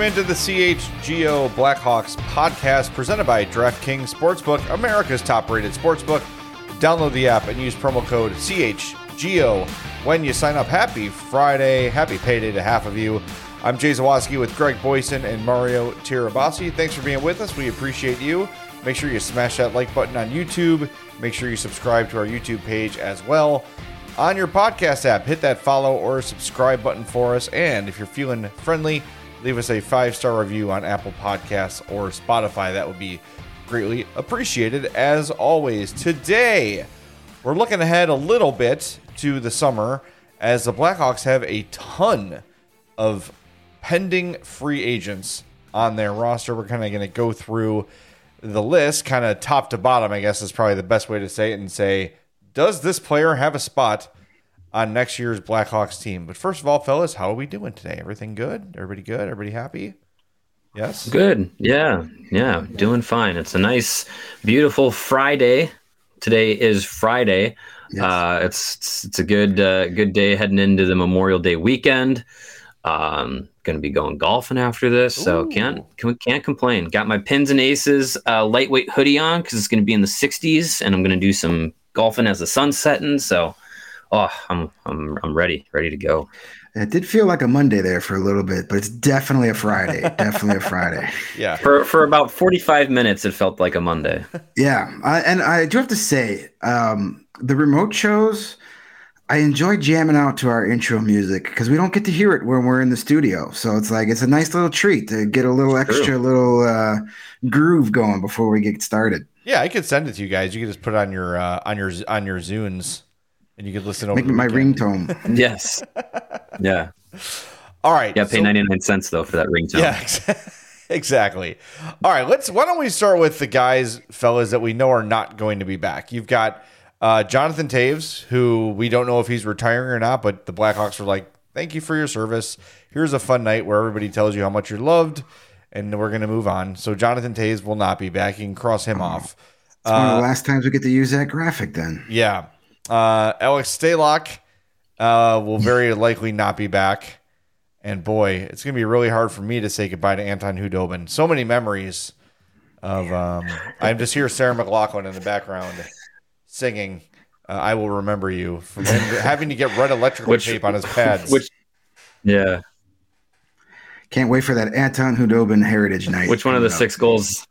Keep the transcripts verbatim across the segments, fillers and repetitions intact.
into the C H G O Blackhawks podcast presented by DraftKings Sportsbook, America's top-rated sportsbook. Download the app and use promo code C H G O when you sign up. Happy Friday. Happy payday to half of you. I'm Jay Zawaski with Greg Boyson and Mario Tirabassi. Thanks for being with us. We appreciate you. Make sure you smash that like button on YouTube. Make sure you subscribe to our YouTube page as well. On your podcast app, hit that follow or subscribe button for us. And if you're feeling friendly, leave us a five-star review on Apple Podcasts or Spotify. That would be greatly appreciated. As always, today we're looking ahead a little bit to the summer as the Blackhawks have a ton of pending free agents on their roster. We're kind of going to go through the list, kind of top to bottom, I guess is probably the best way to say it, and say, does this player have a spot on next year's Blackhawks team? But first of all, fellas, how are we doing today? Everything good? Everybody good? Everybody happy? Yes? Good. Yeah. Yeah. Doing fine. It's a nice, beautiful Friday. Today is Friday. Yes. Uh, it's, it's it's a good uh, good day heading into the Memorial Day weekend. Um, going to be going golfing after this, so Ooh. can't can't complain. Got my Pins and Aces uh, lightweight hoodie on because it's going to be in the sixties, and I'm going to do some golfing as the sun's setting. So, oh, I'm I'm I'm ready, ready to go. It did feel like a Monday there for a little bit, but it's definitely a Friday. Definitely a Friday. Yeah. For for about forty-five minutes, it felt like a Monday. Yeah, I, and I do have to say, um, the remote shows, I enjoy jamming out to our intro music because we don't get to hear it when we're in the studio. So it's like it's a nice little treat to get a little It's extra true. little uh, groove going before we get started. Yeah, I could send it to you guys. You could just put it on your uh, on your on your Zunes, and you could listen over. Make the my weekend. ringtone. Yes. Yeah. All right. Yeah. Pay so- ninety-nine cents though for that ringtone. Yeah, ex- exactly. All right, let's. Why don't we start with the guys, fellas, that we know are not going to be back? You've got uh, Jonathan Toews, who we don't know if he's retiring or not, but the Blackhawks were like, "Thank you for your service. Here's a fun night where everybody tells you how much you're loved, and we're going to move on." So Jonathan Toews will not be back. You can cross him off. It's one of Uh, the last times we get to use that graphic then. Yeah. Uh, Alex Stalock uh, will very likely not be back. And boy, it's going to be really hard for me to say goodbye to Anton Hudobin. So many memories of, um, I'm just here, Sarah McLachlan in the background singing, uh, I Will Remember You, from him having to get red electrical Which- tape on his pads. Which, yeah. Can't wait for that Anton Hudobin Heritage Night. Which one of the coming up. six goals?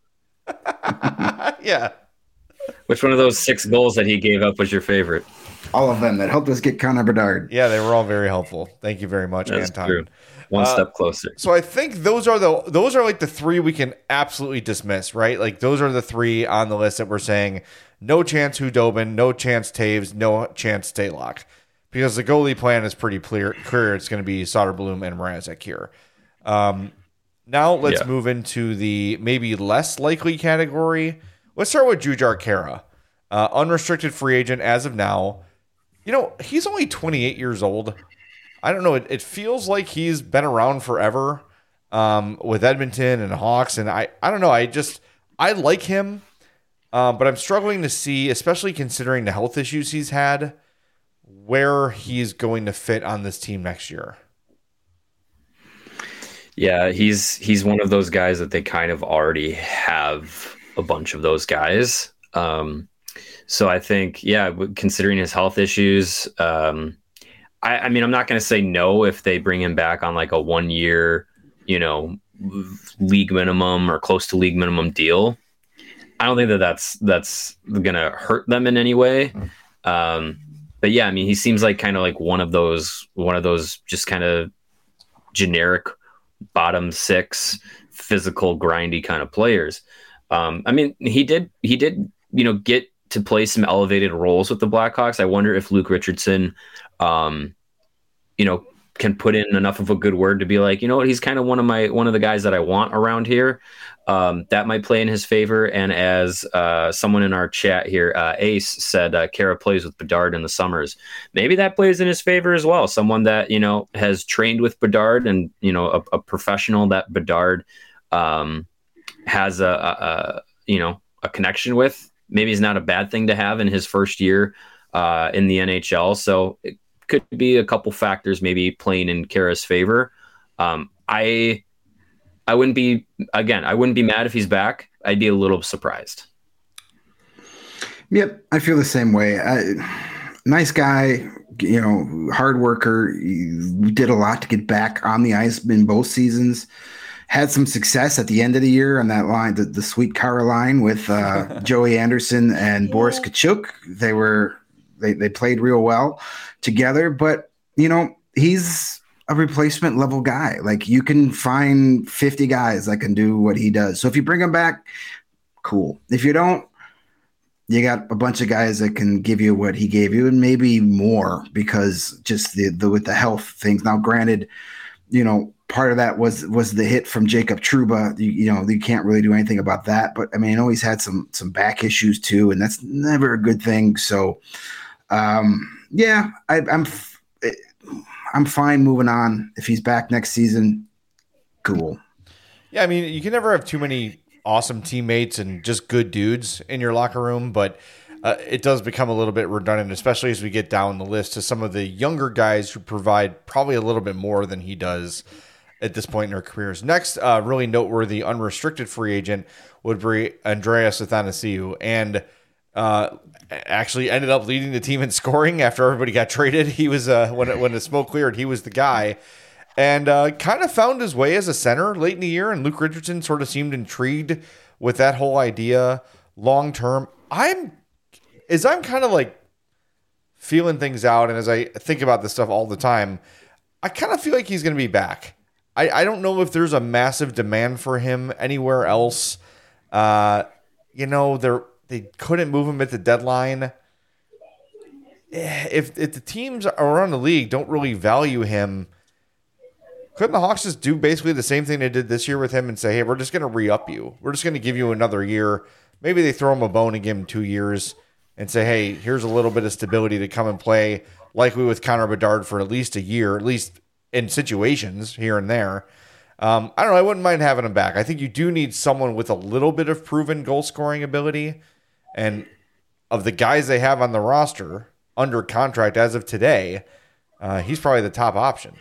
yeah. Which one of those six goals that he gave up was your favorite? All of them that helped us get Connor Bedard. Yeah, they were all very helpful. Thank you very much, That's Anton. true. One Uh, step closer. So I think those are the those are like the three we can absolutely dismiss, right? Like those are the three on the list that we're saying no chance Hudobin, no chance Taves, no chance Stalock, because the goalie plan is pretty clear. Clear, it's going to be Soderblom and Mrazek here. Um, now let's Yeah. move into the maybe less likely category. Let's start with Jujhar Khaira, uh, unrestricted free agent as of now. You know, he's only twenty-eight years old. I don't know. It, it feels like he's been around forever um, with Edmonton and Hawks. And I, I don't know. I just, I like him, um, but I'm struggling to see, especially considering the health issues he's had, where he's going to fit on this team next year. Yeah, he's he's one of those guys that they kind of already have a bunch of those guys. Um, so I think, yeah, w- considering his health issues, um, I, I mean, I'm not going to say no if they bring him back on like a one year, you know, league minimum or close to league minimum deal. I don't think that that's that's going to hurt them in any way. Um, but yeah, I mean, he seems like kind of like one of those one of those just kind of generic bottom six physical grindy kind of players. Um, I mean, he did he did you know get to play some elevated roles with the Blackhawks. I wonder if Luke Richardson, um, you know, can put in enough of a good word to be like, you know what, he's kind of one of my one of the guys that I want around here. Um, that might play in his favor. And as uh, someone in our chat here, uh, Ace said, uh, Khaira plays with Bedard in the summers. Maybe that plays in his favor as well. Someone that, you know, has trained with Bedard and, you know, a, a professional that Bedard um, has a, a, a, you know, a connection with. Maybe it's not a bad thing to have in his first year uh, in the N H L. So it could be a couple factors maybe playing in Khaira's favor. Um, I I wouldn't be, again, I wouldn't be mad if he's back. I'd be a little surprised. Yep, I feel the same way. I, nice guy, you know, hard worker. He did a lot to get back on the ice in both seasons. Had some success at the end of the year on that line, the, the Sweet Car line with uh, Joey Anderson and yeah. Boris Kachuk. They were they they played real well together. But you know, he's a replacement level guy. Like you can find fifty guys that can do what he does. So if you bring him back, cool. If you don't, you got a bunch of guys that can give you what he gave you and maybe more because just the, the with the health things. Now, granted, you know, part of that was was the hit from Jacob Trouba. You, you know, you can't really do anything about that. But I mean, I know he's had some some back issues too, and that's never a good thing. So, um, yeah, I, I'm I'm fine moving on. If he's back next season, cool. Yeah, I mean, you can never have too many awesome teammates and just good dudes in your locker room, but uh, it does become a little bit redundant, especially as we get down the list to some of the younger guys who provide probably a little bit more than he does at this point in their careers. Next, uh, really noteworthy unrestricted free agent would be Andreas Athanasiou, and uh, actually ended up leading the team in scoring after everybody got traded. He was uh, when it, when the smoke cleared, he was the guy. And uh, kind of found his way as a center late in the year, and Luke Richardson sort of seemed intrigued with that whole idea long term. I'm, as I'm kind of like feeling things out, and as I think about this stuff all the time, I kind of feel like he's going to be back. I, I don't know if there's a massive demand for him anywhere else. Uh, you know, they they couldn't move him at the deadline. If if the teams around the league don't really value him, couldn't the Hawks just do basically the same thing they did this year with him and say, hey, we're just going to re-up you. We're just going to give you another year. Maybe they throw him a bone and give him two years and say, hey, here's a little bit of stability to come and play like we with Connor Bedard for at least a year, at least in situations here and there. Um, I don't know. I wouldn't mind having him back. I think you do need someone with a little bit of proven goal-scoring ability. And of the guys they have on the roster under contract as of today, uh, he's probably the top option.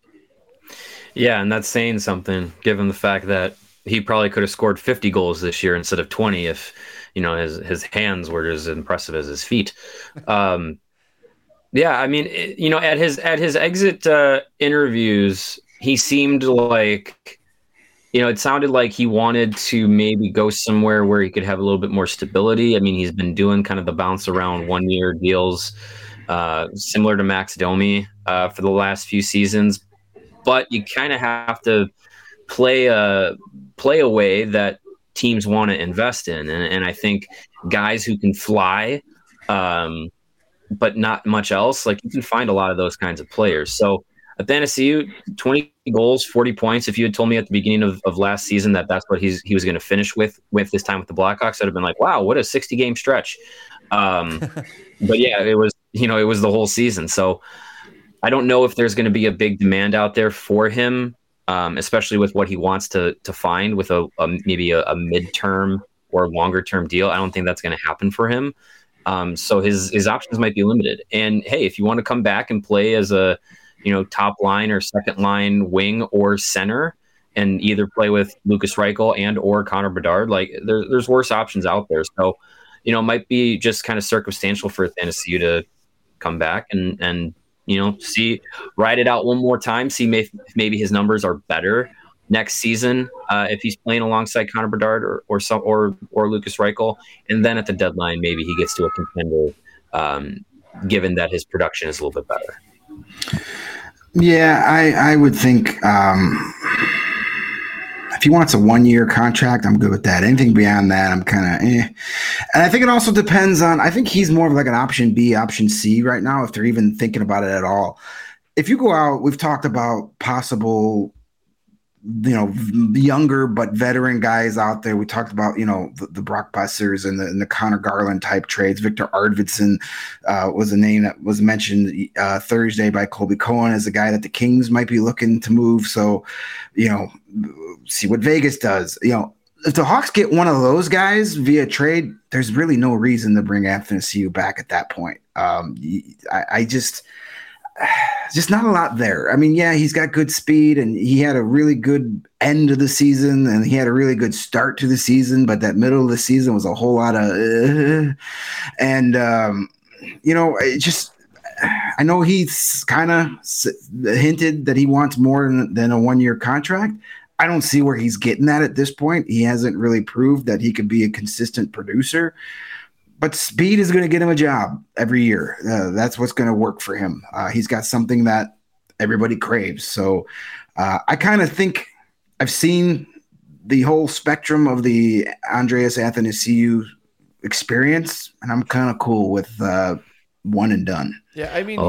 Yeah, and that's saying something, given the fact that he probably could have scored fifty goals this year instead of twenty if, you know, his his hands were as impressive as his feet. Um, yeah, I mean, it, you know, at his at his exit uh, interviews, he seemed like, you know, it sounded like he wanted to maybe go somewhere where he could have a little bit more stability. I mean, he's been doing kind of the bounce around one year deals, uh, similar to Max Domi uh, for the last few seasons. But you kind of have to play a play a way that teams want to invest in, and, and I think guys who can fly, um, but not much else, like you can find a lot of those kinds of players. So Athanasiou, twenty goals, forty points. If you had told me at the beginning of, of last season that that's what he's he was going to finish with with this time with the Blackhawks, I'd have been like, wow, what a sixty game stretch. Um, but yeah, it was you know it was the whole season. So I don't know if there's going to be a big demand out there for him, um, especially with what he wants to to find with a, a maybe a, a midterm or longer term deal. I don't think that's going to happen for him. Um, so his his options might be limited. And hey, if you want to come back and play as a you know top line or second line wing or center, and either play with Lucas Reichel and or Connor Bedard, like there, there's worse options out there. So you know, it might be just kind of circumstantial for Athanasiou to come back and and. You know, see, ride it out one more time. See, may, maybe his numbers are better next season uh, if he's playing alongside Connor Bedard or or some or or Lucas Reichel, and then at the deadline, maybe he gets to a contender, um, given that his production is a little bit better. Yeah, I I would think um, if he wants a one-year contract, I'm good with that. Anything beyond that, I'm kind of eh. And I think it also depends on – I think he's more of like an option B, option C right now, if they're even thinking about it at all. If you go out, we've talked about possible, you know, younger but veteran guys out there. We talked about, you know, the, the Brock Bessers and the, and the Connor Garland type trades. Victor Arvidsson uh, was a name that was mentioned uh, Thursday by Colby Cohen as a guy that the Kings might be looking to move. So, you know, see what Vegas does. You know, if the Hawks get one of those guys via trade, there's really no reason to bring Athanasiou back at that point. Um, I, I just – just not a lot there. I mean, yeah, he's got good speed and he had a really good end of the season and he had a really good start to the season, but that middle of the season was a whole lot of, uh, and, um, you know, it just, I know he's kind of hinted that he wants more than, than a one-year contract. I don't see where he's getting that at this point. He hasn't really proved that he could be a consistent producer. But speed is going to get him a job every year. Uh, that's what's going to work for him. Uh, he's got something that everybody craves. So uh, I kind of think I've seen the whole spectrum of the Andreas Athanasiou experience, and I'm kind of cool with uh, one and done. Yeah, I mean,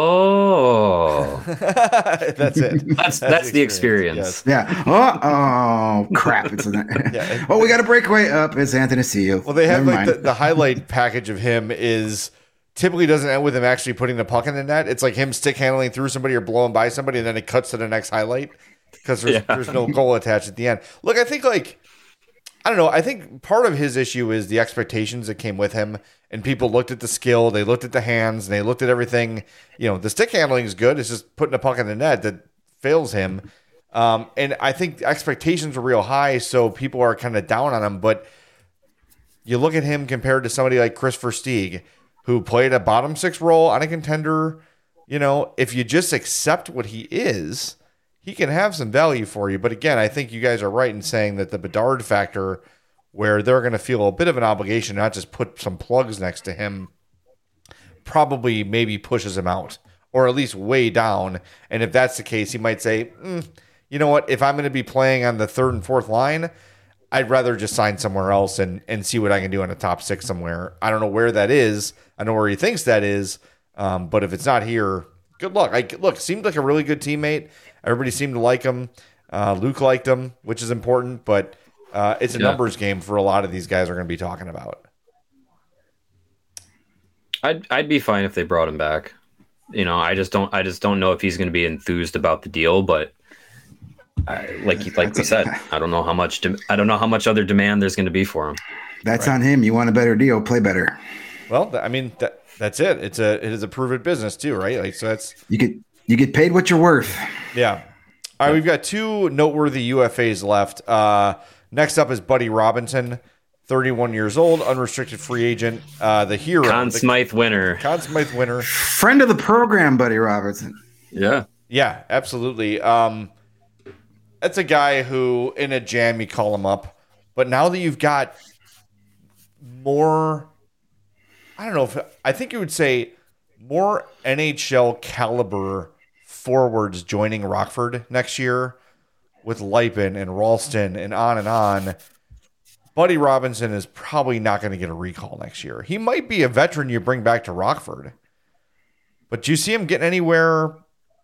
oh, that's it. That's that's, that's the experience. Yes. Yeah. Oh, oh, crap! It's an, yeah. Oh, we got a breakaway up. It's Athanasiou. Well, they have Never like the, the highlight package of him is typically doesn't end with him actually putting the puck in the net. It's like him stick handling through somebody or blowing by somebody, and then it cuts to the next highlight because there's yeah. there's no goal attached at the end. Look, I think like I don't know. I think part of his issue is the expectations that came with him. And people looked at the skill, they looked at the hands, and they looked at everything. You know, the stick handling is good. It's just putting a puck in the net that fails him. Um, and I think expectations were real high, so people are kind of down on him. But you look at him compared to somebody like Chris Versteeg, who played a bottom six role on a contender. You know, if you just accept what he is, he can have some value for you. But again, I think you guys are right in saying that the Bedard factor, where they're going to feel a bit of an obligation, not just put some plugs next to him, probably maybe pushes him out, or at least way down. And if that's the case, he might say, mm, you know what, if I'm going to be playing on the third and fourth line, I'd rather just sign somewhere else and, and see what I can do in a top six somewhere. I don't know where that is. I know where he thinks that is. Um, but if it's not here, good luck. I, look, seemed like a really good teammate. Everybody seemed to like him. Uh, Luke liked him, which is important, but Uh, it's a yeah. numbers game for a lot of these guys are going to be talking about. I'd I'd be fine if they brought him back. You know, I just don't I just don't know if he's going to be enthused about the deal. But I, like like we said, I don't know how much de- I don't know how much other demand there's going to be for him. That's right. On him. You want a better deal, play better. Well, I mean that that's it. It's a it is a proven business too, right? Like so, that's you get you get paid what you're worth. Yeah. All right, we've got two noteworthy U F As left. Uh, Next up is Buddy Robinson, thirty-one years old, unrestricted free agent, uh, the hero. Conn Smythe winner. Conn Smythe winner. Friend of the program, Buddy Robinson. Yeah. Yeah, absolutely. Um, that's a guy who, in a jam, you call him up. But now that you've got more, I don't know if, I think you would say more N H L caliber forwards joining Rockford next year, with Lipin and Ralston and on and on, Buddy Robinson is probably not going to get a recall next year. He might be a veteran you bring back to Rockford. But do you see him getting anywhere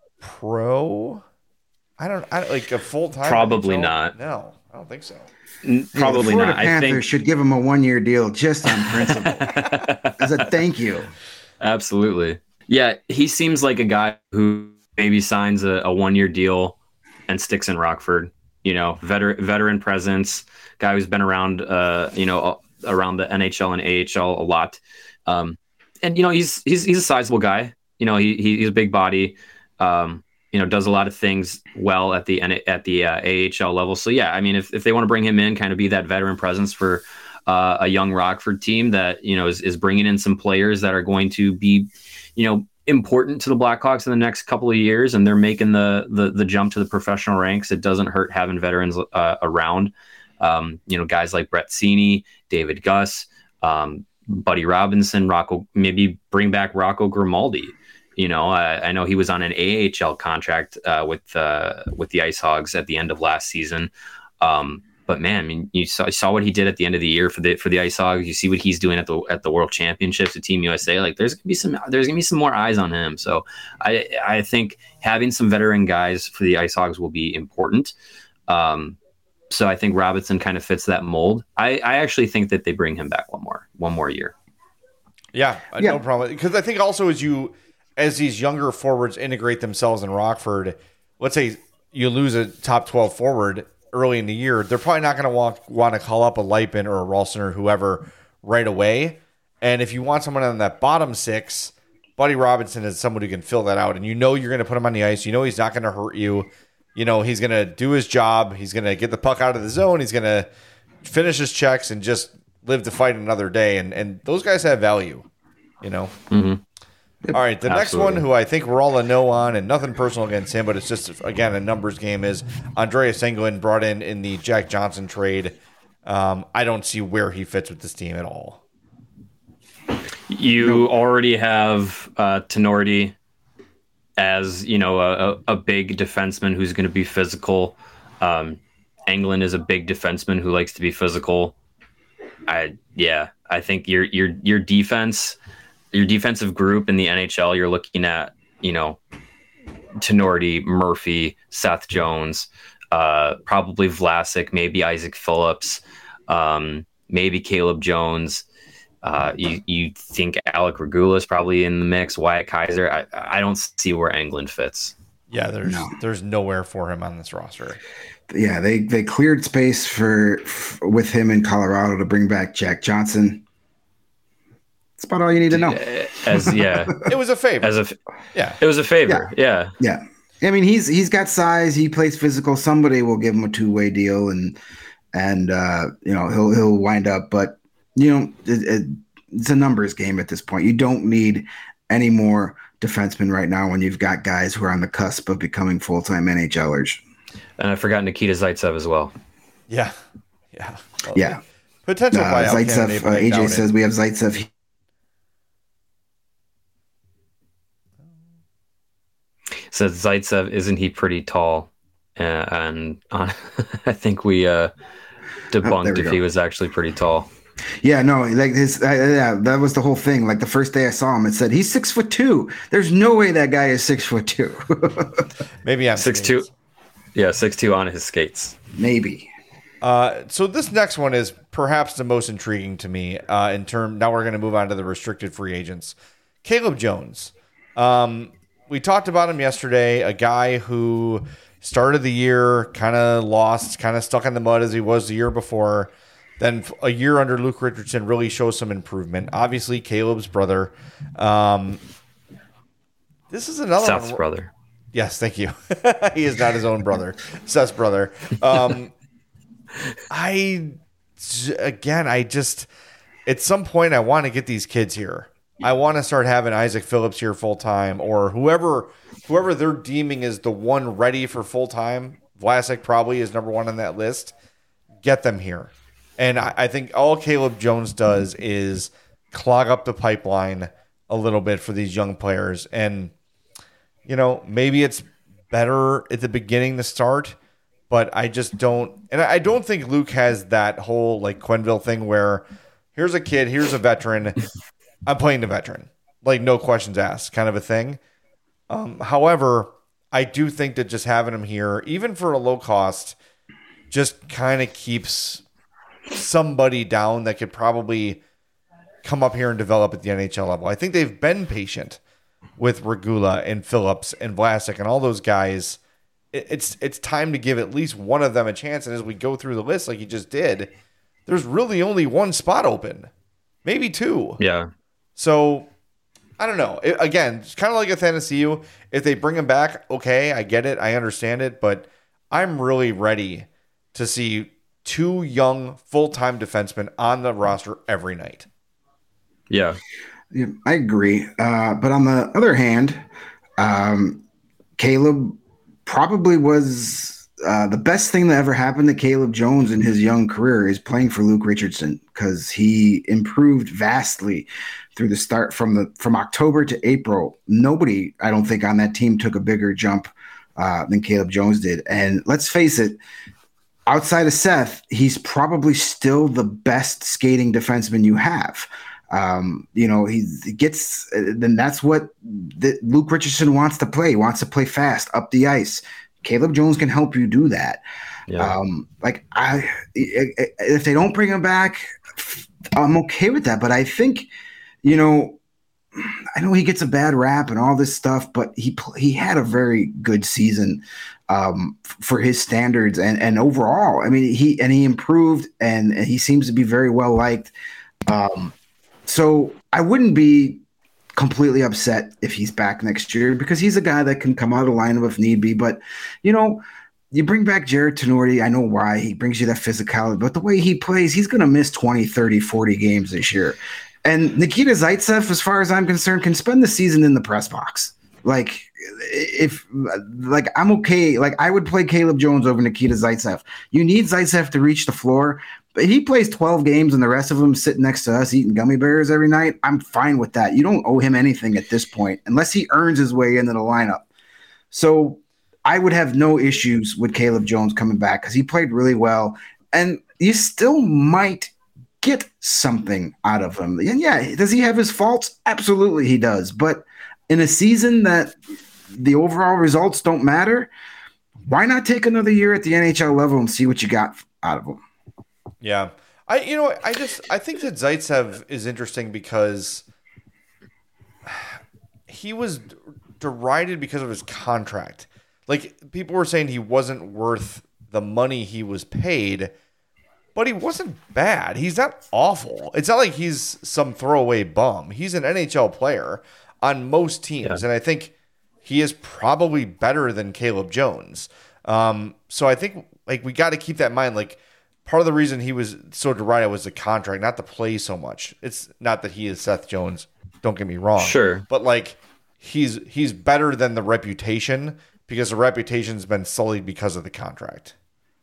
pro? I don't I don't- like a full-time? Probably N H L? not. No, I don't think so. N- probably yeah, the not. Panthers I think should give him a one-year deal just on principle. As a thank you. Absolutely. Yeah, he seems like a guy who maybe signs a, a one-year deal and sticks in Rockford. You know, veteran veteran presence, guy who's been around, uh, you know, around the N H L and A H L a lot. Um, and you know, he's he's he's a sizable guy. You know, he, he he's a big body. Um, you know, does a lot of things well at the at the uh, A H L level. So yeah, I mean, if if they want to bring him in, kind of be that veteran presence for uh, a young Rockford team that you know is is bringing in some players that are going to be, you know, important to the Blackhawks in the next couple of years, and they're making the the, the jump to the professional ranks. It doesn't hurt having veterans uh, around. Um, you know, guys like Brett Seney, David Guss, um, Buddy Robinson, Rocco. Maybe bring back Rocco Grimaldi. You know, I, I know he was on an A H L contract uh, with uh, with the Ice Hogs at the end of last season. Um, But man, I mean, you saw, you saw what he did at the end of the year for the for the Ice Hogs. You see what he's doing at the at the World Championships at Team U S A. Like, there's gonna be some there's gonna be some more eyes on him. So I I think having some veteran guys for the Ice Hogs will be important. Um, so I think Robinson kind of fits that mold. I, I actually think that they bring him back one more one more year. Yeah, yeah. No problem. Because I think also as you as these younger forwards integrate themselves in Rockford, let's say you lose a top twelve forward early in the year, they're probably not going to want want to call up a Lipin or a Ralston or whoever right away. And if you want someone on that bottom six, Buddy Robinson is someone who can fill that out, and you know you're going to put him on the ice. You know he's not going to hurt you. You know he's going to do his job. He's going to get the puck out of the zone. He's going to finish his checks and just live to fight another day. And and those guys have value, you know. Mm-hmm. Yep. All right, the Absolutely. next one, who I think we're all a no on, and nothing personal against him, but it's just, again, a numbers game, is Andreas Englund, brought in in the Jack Johnson trade. Um, I don't see where he fits with this team at all. You nope. already have uh, Tenorti as, you know, a, a big defenseman who's going to be physical. Um, Englund is a big defenseman who likes to be physical. I yeah, I think your your your defense. Your defensive group in the N H L, you're looking at, you know, Tenorti, Murphy, Seth Jones, uh, probably Vlasic, maybe Isaac Phillips, um, maybe Caleb Jones. Uh, you you think Alec Regula is probably in the mix, Wyatt Kaiser. I, I don't see where Englund fits. Yeah, there's no. there's nowhere for him on this roster. Yeah, they, they cleared space for, for with him in Colorado to bring back Jack Johnson. That's about all you need to know. As yeah, it was a favor. As a yeah, it was a favor. Yeah. yeah, yeah. I mean, he's he's got size. He plays physical. Somebody will give him a two way deal, and and uh, you know he'll he'll wind up. But you know, it, it, it's a numbers game at this point. You don't need any more defensemen right now when you've got guys who are on the cusp of becoming full time N H L ers. And I forgot Nikita Zaitsev as well. Yeah, yeah, well, yeah. Potential uh, buyout Zaitsev. candidate, Uh, A J says we have Zaitsev. Says Zaitsev, isn't he pretty tall? Uh, and uh, I think we uh, debunked oh, we if go. he was actually pretty tall. Yeah, no, like his, uh, yeah, that was the whole thing. Like the first day I saw him, it said he's six foot two. There's no way that guy is six foot two. Maybe I'm six two. Yeah, six two on his skates. Maybe. Uh, so this next one is perhaps the most intriguing to me. Uh, in term, now we're going to move on to the restricted free agents. Caleb Jones. Um, we talked about him yesterday. A guy who started the year kind of lost, kind of stuck in the mud as he was the year before. Then a year under Luke Richardson really shows some improvement. Obviously, Caleb's brother. Um, this is another Seth's one. brother. Yes, thank you. He is not his own brother. Seth's brother. Um, I, again, I just, at some point, I want to get these kids here. I want to start having Isaac Phillips here full time, or whoever, whoever they're deeming is the one ready for full time. Vlasic probably is number one on that list. Get them here. And I, I think all Caleb Jones does is clog up the pipeline a little bit for these young players. And, you know, maybe it's better at the beginning to start, but I just don't. And I don't think Luke has that whole like Quenneville thing where here's a kid, here's a veteran. I'm playing the veteran, like no questions asked kind of a thing. Um, however, I do think that just having him here, even for a low cost, just kind of keeps somebody down that could probably come up here and develop at the N H L level. I think they've been patient with Regula and Phillips and Vlasic and all those guys. It's it's time to give at least one of them a chance. And as we go through the list, like you just did, there's really only one spot open, maybe two. Yeah. So I don't know. It, again, it's kind of like Athanasiou. If they bring him back, okay, I get it, I understand it, but I'm really ready to see two young full-time defensemen on the roster every night. Yeah. Yeah, I agree. Uh, but on the other hand, um, Caleb probably was uh, the best thing that ever happened to Caleb Jones in his young career is playing for Luke Richardson, because he improved vastly through the start from the from October to April. Nobody, I don't think, on that team took a bigger jump uh, than Caleb Jones did. And let's face it, outside of Seth, he's probably still the best skating defenseman you have. Um, you know, he gets, then that's what the, Luke Richardson wants to play. He wants to play fast up the ice. Caleb Jones can help you do that. Yeah. Um, like I, if they don't bring him back, I'm okay with that. But I think, you know, I know he gets a bad rap and all this stuff, but he he had a very good season um, for his standards and and overall. I mean, he and he improved and, and he seems to be very well liked. Um, so I wouldn't be completely upset if he's back next year because he's a guy that can come out of the lineup if need be. But, you know, you bring back Jared Tenorti. I know why. He brings you that physicality. But the way he plays, he's going to miss twenty, thirty, forty games this year. And Nikita Zaitsev, as far as I'm concerned, can spend the season in the press box. Like, if like I'm okay. Like, I would play Caleb Jones over Nikita Zaitsev. You need Zaitsev to reach the floor. But he plays twelve games and the rest of them sitting next to us eating gummy bears every night. I'm fine with that. You don't owe him anything at this point unless he earns his way into the lineup. So I would have no issues with Caleb Jones coming back because he played really well. And you still might get something out of him. And yeah, does he have his faults? Absolutely he does. But in a season that the overall results don't matter, why not take another year at the N H L level and see what you got out of him? Yeah. I you know, I just I think that Zaitsev is interesting because he was derided because of his contract. Like, people were saying he wasn't worth the money he was paid, but he wasn't bad. He's not awful. It's not like he's some throwaway bum. He's an N H L player on most teams, yeah. And I think he is probably better than Caleb Jones. Um, so I think like we got to keep that in mind. Like, part of the reason he was so derided was the contract, not the play so much. It's not that he is Seth Jones. Don't get me wrong. Sure. But like he's he's better than the reputation because the reputation's been sullied because of the contract.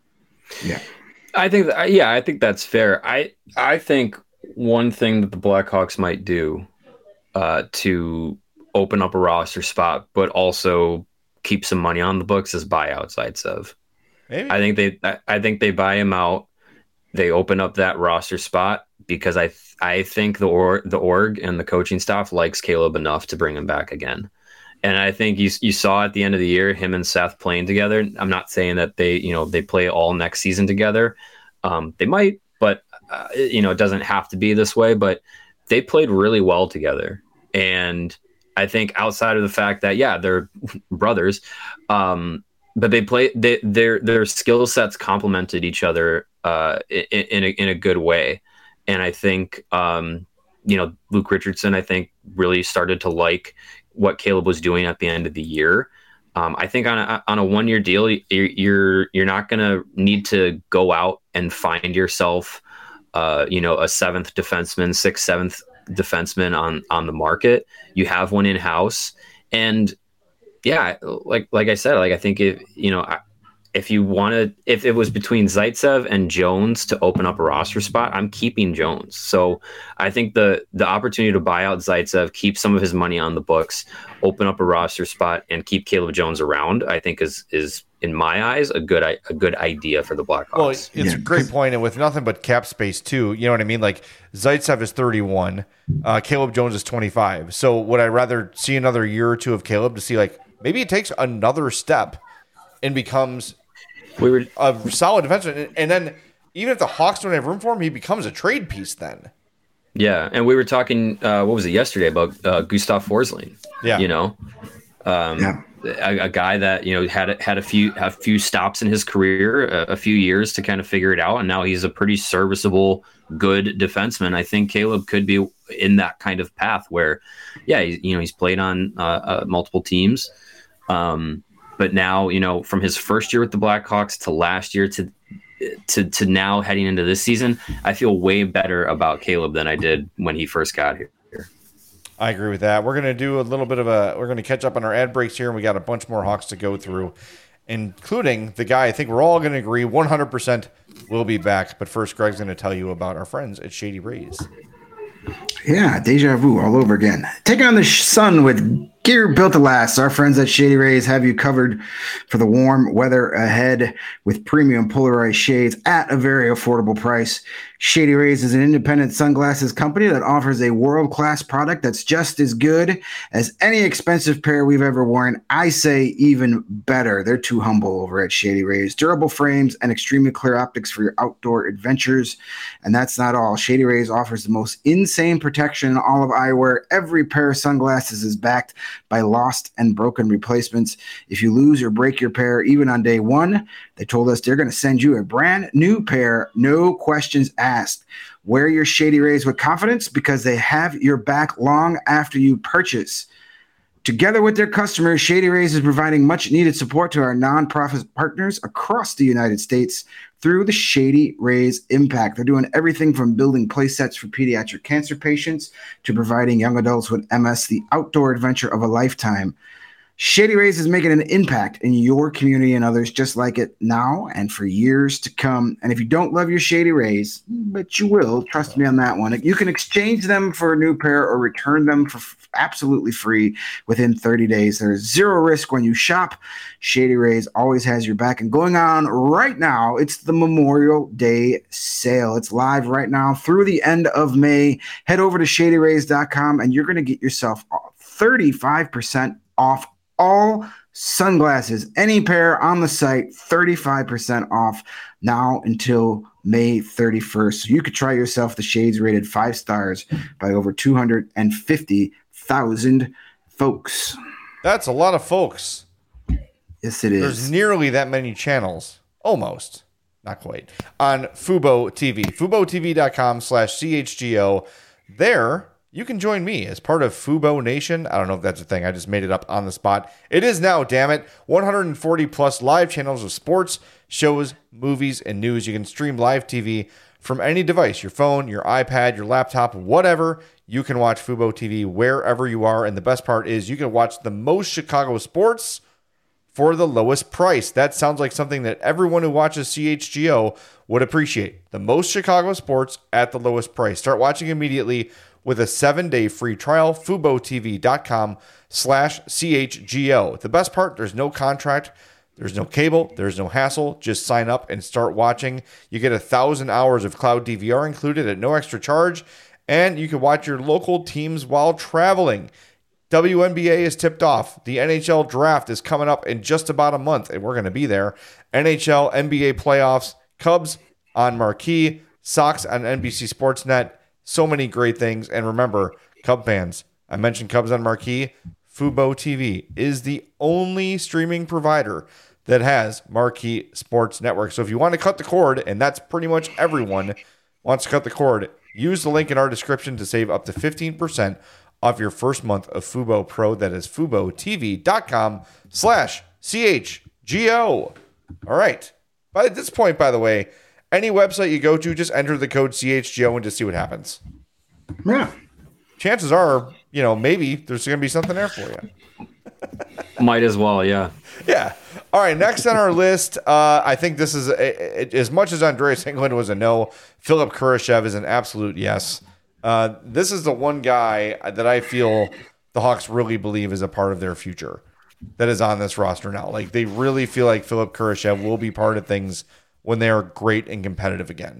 Yeah. I think that, yeah, I think that's fair. I I think one thing that the Blackhawks might do uh, to open up a roster spot, but also keep some money on the books is buy out Zaitsev. Maybe. I think they I, I think they buy him out. They open up that roster spot because I th- I think the or the org and the coaching staff likes Caleb enough to bring him back again. And I think you you saw at the end of the year him and Seth playing together. I'm not saying that they you know they play all next season together. Um, they might, but uh, you know it doesn't have to be this way. But they played really well together, and I think outside of the fact that yeah they're brothers, um, but they play they, their their skill sets complemented each other uh, in, in a in a good way, and I think um, you know Luke Richardson I think really started to like what Caleb was doing at the end of the year. Um, I think on a on a one year deal, you're you're, you're not going to need to go out and find yourself, uh, you know, a seventh defenseman, sixth, seventh defenseman on on the market. You have one in house, and yeah, like like I said, like I think if you know if you wanted, if it was between Zaitsev and Jones to open up a roster spot, I'm keeping Jones. So I think the the opportunity to buy out Zaitsev, keep some of his money on the books, open up a roster spot, and keep Caleb Jones around, I think is is in my eyes a good a good idea for the Blackhawks. Well, it's yeah. a great point, and with nothing but cap space too. You know what I mean? Like Zaitsev is thirty-one, uh, Caleb Jones is twenty-five. So would I rather see another year or two of Caleb to see like maybe it takes another step and becomes we were a solid defenseman, and then even if the Hawks don't have room for him, he becomes a trade piece then. Yeah, and we were talking, uh, what was it, yesterday about uh, Gustav Forsling. Yeah. You know, um, yeah. A, a guy that, you know, had, had a few a few stops in his career, a, a few years to kind of figure it out, and now he's a pretty serviceable, good defenseman. I think Caleb could be in that kind of path where, yeah, he, you know, he's played on uh, uh, multiple teams, um, but now, you know, from his first year with the Blackhawks to last year to to to now heading into this season, I feel way better about Caleb than I did when he first got here. I agree with that. We're going to do a little bit of a, we're going to catch up on our ad breaks here, and we got a bunch more Hawks to go through, including the guy I think we're all going to agree one hundred percent will be back. But first, Greg's going to tell you about our friends at Shady Rays. Yeah, deja vu all over again. Take on the sun with gear built to last. Our friends at Shady Rays have you covered for the warm weather ahead with premium polarized shades at a very affordable price. Shady Rays is an independent sunglasses company that offers a world-class product that's just as good as any expensive pair we've ever worn. I say even better. They're too humble over at Shady Rays. Durable frames and extremely clear optics for your outdoor adventures. And that's not all. Shady Rays offers the most insane protection in all of eyewear. Every pair of sunglasses is backed by lost and broken replacements. If you lose or break your pair, even on day one, they told us they're going to send you a brand new pair, no questions asked. Wear your Shady Rays with confidence because they have your back long after you purchase. Together with their customers, Shady Rays is providing much-needed support to our nonprofit partners across the United States through the Shady Rays Impact. They're doing everything from building play sets for pediatric cancer patients to providing young adults with M S the outdoor adventure of a lifetime. Shady Rays is making an impact in your community and others just like it now and for years to come. And if you don't love your Shady Rays, but you will, trust me on that one, you can exchange them for a new pair or return them for f- absolutely free within thirty days. There's zero risk when you shop. Shady Rays always has your back. And going on right now, it's the Memorial Day sale. It's live right now through the end of May. Head over to shady rays dot com and you're going to get yourself thirty-five percent off all sunglasses, any pair on the site, thirty-five percent off now until May thirty-first. So you could try yourself the shades rated five stars by over two hundred fifty thousand folks. That's a lot of folks. Yes, it is. There's nearly that many channels. Almost. Not quite. On Fubo T V. FuboTV.com slash CHGO. There, you can join me as part of Fubo Nation. I don't know if that's a thing. I just made it up on the spot. It is now, damn it. one hundred forty plus live channels of sports, shows, movies, and news. You can stream live T V from any device, your phone, your iPad, your laptop, whatever. You can watch Fubo T V wherever you are. And the best part is you can watch the most Chicago sports for the lowest price. That sounds like something that everyone who watches C H G O would appreciate. The most Chicago sports at the lowest price. Start watching immediately with a seven-day free trial, FuboTV.com slash CHGO. The best part, there's no contract, there's no cable, there's no hassle. Just sign up and start watching. You get a thousand hours of cloud D V R included at no extra charge, and you can watch your local teams while traveling. W N B A is tipped off. The N H L draft is coming up in just about a month, and we're going to be there. N H L, N B A playoffs, Cubs on Marquee, Sox on N B C Sportsnet. So many great things. And remember, Cub fans, I mentioned Cubs on Marquee. Fubo T V is the only streaming provider that has Marquee Sports Network. So if you want to cut the cord, and that's pretty much everyone wants to cut the cord, use the link in our description to save up to fifteen percent off your first month of Fubo Pro. That is FuboTV.com slash CHGO. All right. By this point, by the way, any website you go to, just enter the code C H G O and just see what happens. Yeah. Chances are, you know, maybe there's going to be something there for you. Might as well, yeah. Yeah. All right, next on our list, uh, I think this is, a, a, as much as Andreas England was a no, Philip Kurashev is an absolute yes. Uh, this is the one guy that I feel the Hawks really believe is a part of their future that is on this roster now. Like, they really feel like Philip Kurashev will be part of things when they are great and competitive again.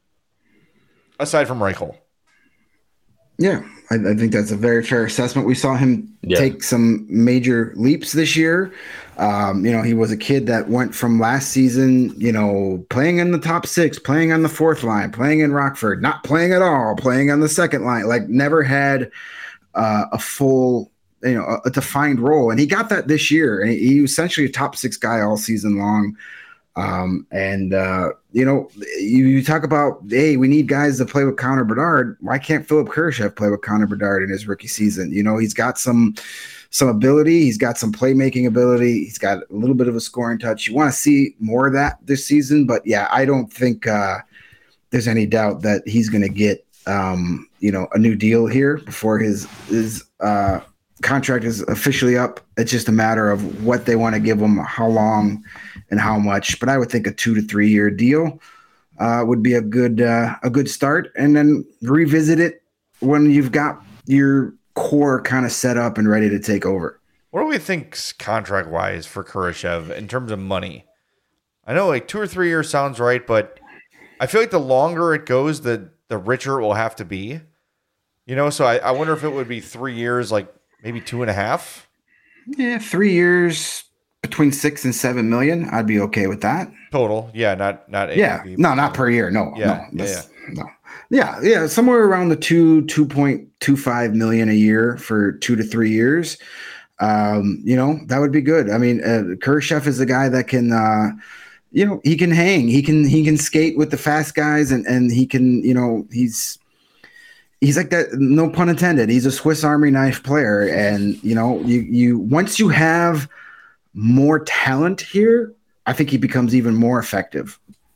Aside from Reichel. Yeah, I, I think that's a very fair assessment. We saw him yeah. take some major leaps this year. Um, you know, he was a kid that went from last season, you know, playing in the top six, playing on the fourth line, playing in Rockford, not playing at all, playing on the second line, like never had uh, a full, you know, a, a defined role. And he got that this year. And he, he was essentially a top six guy all season long. Um, and, uh, you know, you, you talk about, hey, we need guys to play with Connor Bedard. Why can't Philip Kurashev play with Connor Bedard in his rookie season? You know, he's got some some ability. He's got some playmaking ability. He's got a little bit of a scoring touch. You want to see more of that this season. But, yeah, I don't think uh, there's any doubt that he's going to get, um, you know, a new deal here before his his uh, contract is officially up. It's just a matter of what they want to give him, how long and how much. But I would think a two to three year deal uh, would be a good uh, a good start, and then revisit it when you've got your core kind of set up and ready to take over. What do we think contract wise for Kurashev in terms of money? I know like two or three years sounds right, but I feel like the longer it goes, the the richer it will have to be. You know, so I, I wonder if it would be three years, like maybe two and a half. Yeah, three years, between six and seven million, I'd be okay with that. Total, yeah, not not yeah, A A V, no, not per year. No, yeah, no, yeah, no, yeah, yeah, somewhere around the two two point two five million a year for two to three years. Um, you know, that would be good. I mean, uh, Kurashev is a guy that can, uh, you know, he can hang, he can he can skate with the fast guys, and and he can, you know, he's. He's like that, no pun intended. He's a Swiss Army knife player. And, you know, you, you once you have more talent here, I think he becomes even more effective.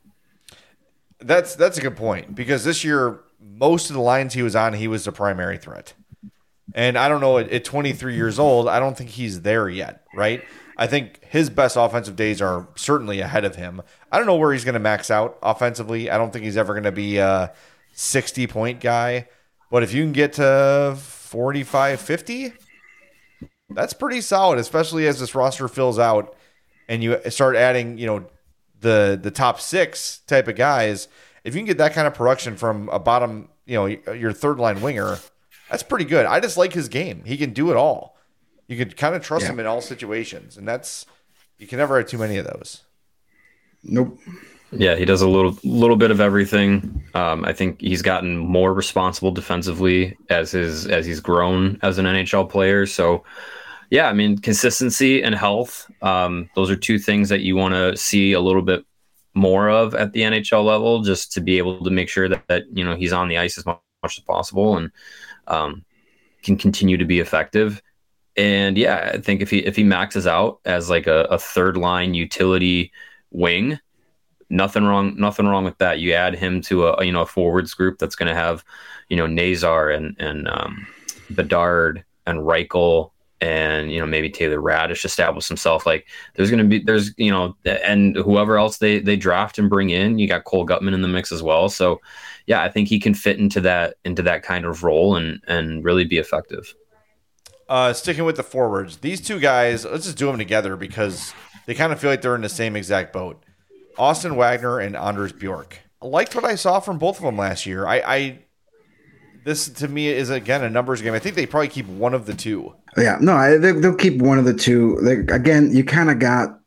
That's that's a good point, because this year, most of the lines he was on, he was the primary threat. And I don't know, at, at twenty-three years old, I don't think he's there yet, right? I think his best offensive days are certainly ahead of him. I don't know where he's going to max out offensively. I don't think he's ever going to be a sixty-point guy. But if you can get to forty-five, fifty, that's pretty solid, especially as this roster fills out and you start adding, you know, the the top six type of guys. If you can get that kind of production from a bottom, you know, your third line winger, that's pretty good. I just like his game. He can do it all. You can kind of trust yeah. him in all situations, and that's you can never have too many of those. Nope. Yeah, he does a little little bit of everything. Um, I think he's gotten more responsible defensively as his as he's grown as an N H L player. So, yeah, I mean, consistency and health. Um, those are two things that you want to see a little bit more of at the N H L level, just to be able to make sure that, that you know he's on the ice as much, much as possible and um, can continue to be effective. And yeah, I think if he if he maxes out as like a, a third line utility wing. Nothing wrong. Nothing wrong with that. You add him to a you know a forwards group that's going to have, you know, Nazar and and um, Bedard and Reichel and you know maybe Taylor Radish establish himself. Like there's going to be there's you know and whoever else they they draft and bring in. You got Cole Gutman in the mix as well. So yeah, I think he can fit into that into that kind of role and and really be effective. Uh, sticking with the forwards, these two guys, let's just do them together because they kind of feel like they're in the same exact boat. Austin Wagner and Anders Bjork. I liked what I saw from both of them last year. I, I this to me is again a numbers game. I think they probably keep one of the two. Yeah, no, I, they, they'll keep one of the two. They, again, you kind of got,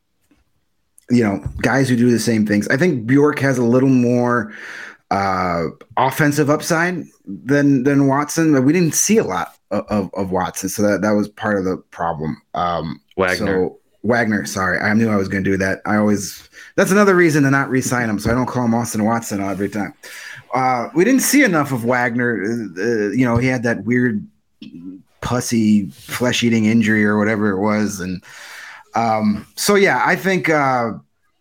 you know, guys who do the same things. I think Bjork has a little more uh, offensive upside than than Watson. We didn't see a lot of, of, of Watson, so that that was part of the problem. Um, Wagner. So, Wagner, sorry. I knew I was going to do that. I always – that's another reason to not re-sign him, so I don't call him Austin Watson every time. Uh, we didn't see enough of Wagner. Uh, you know, he had that weird pussy flesh-eating injury or whatever it was. And um, so, yeah, I think uh,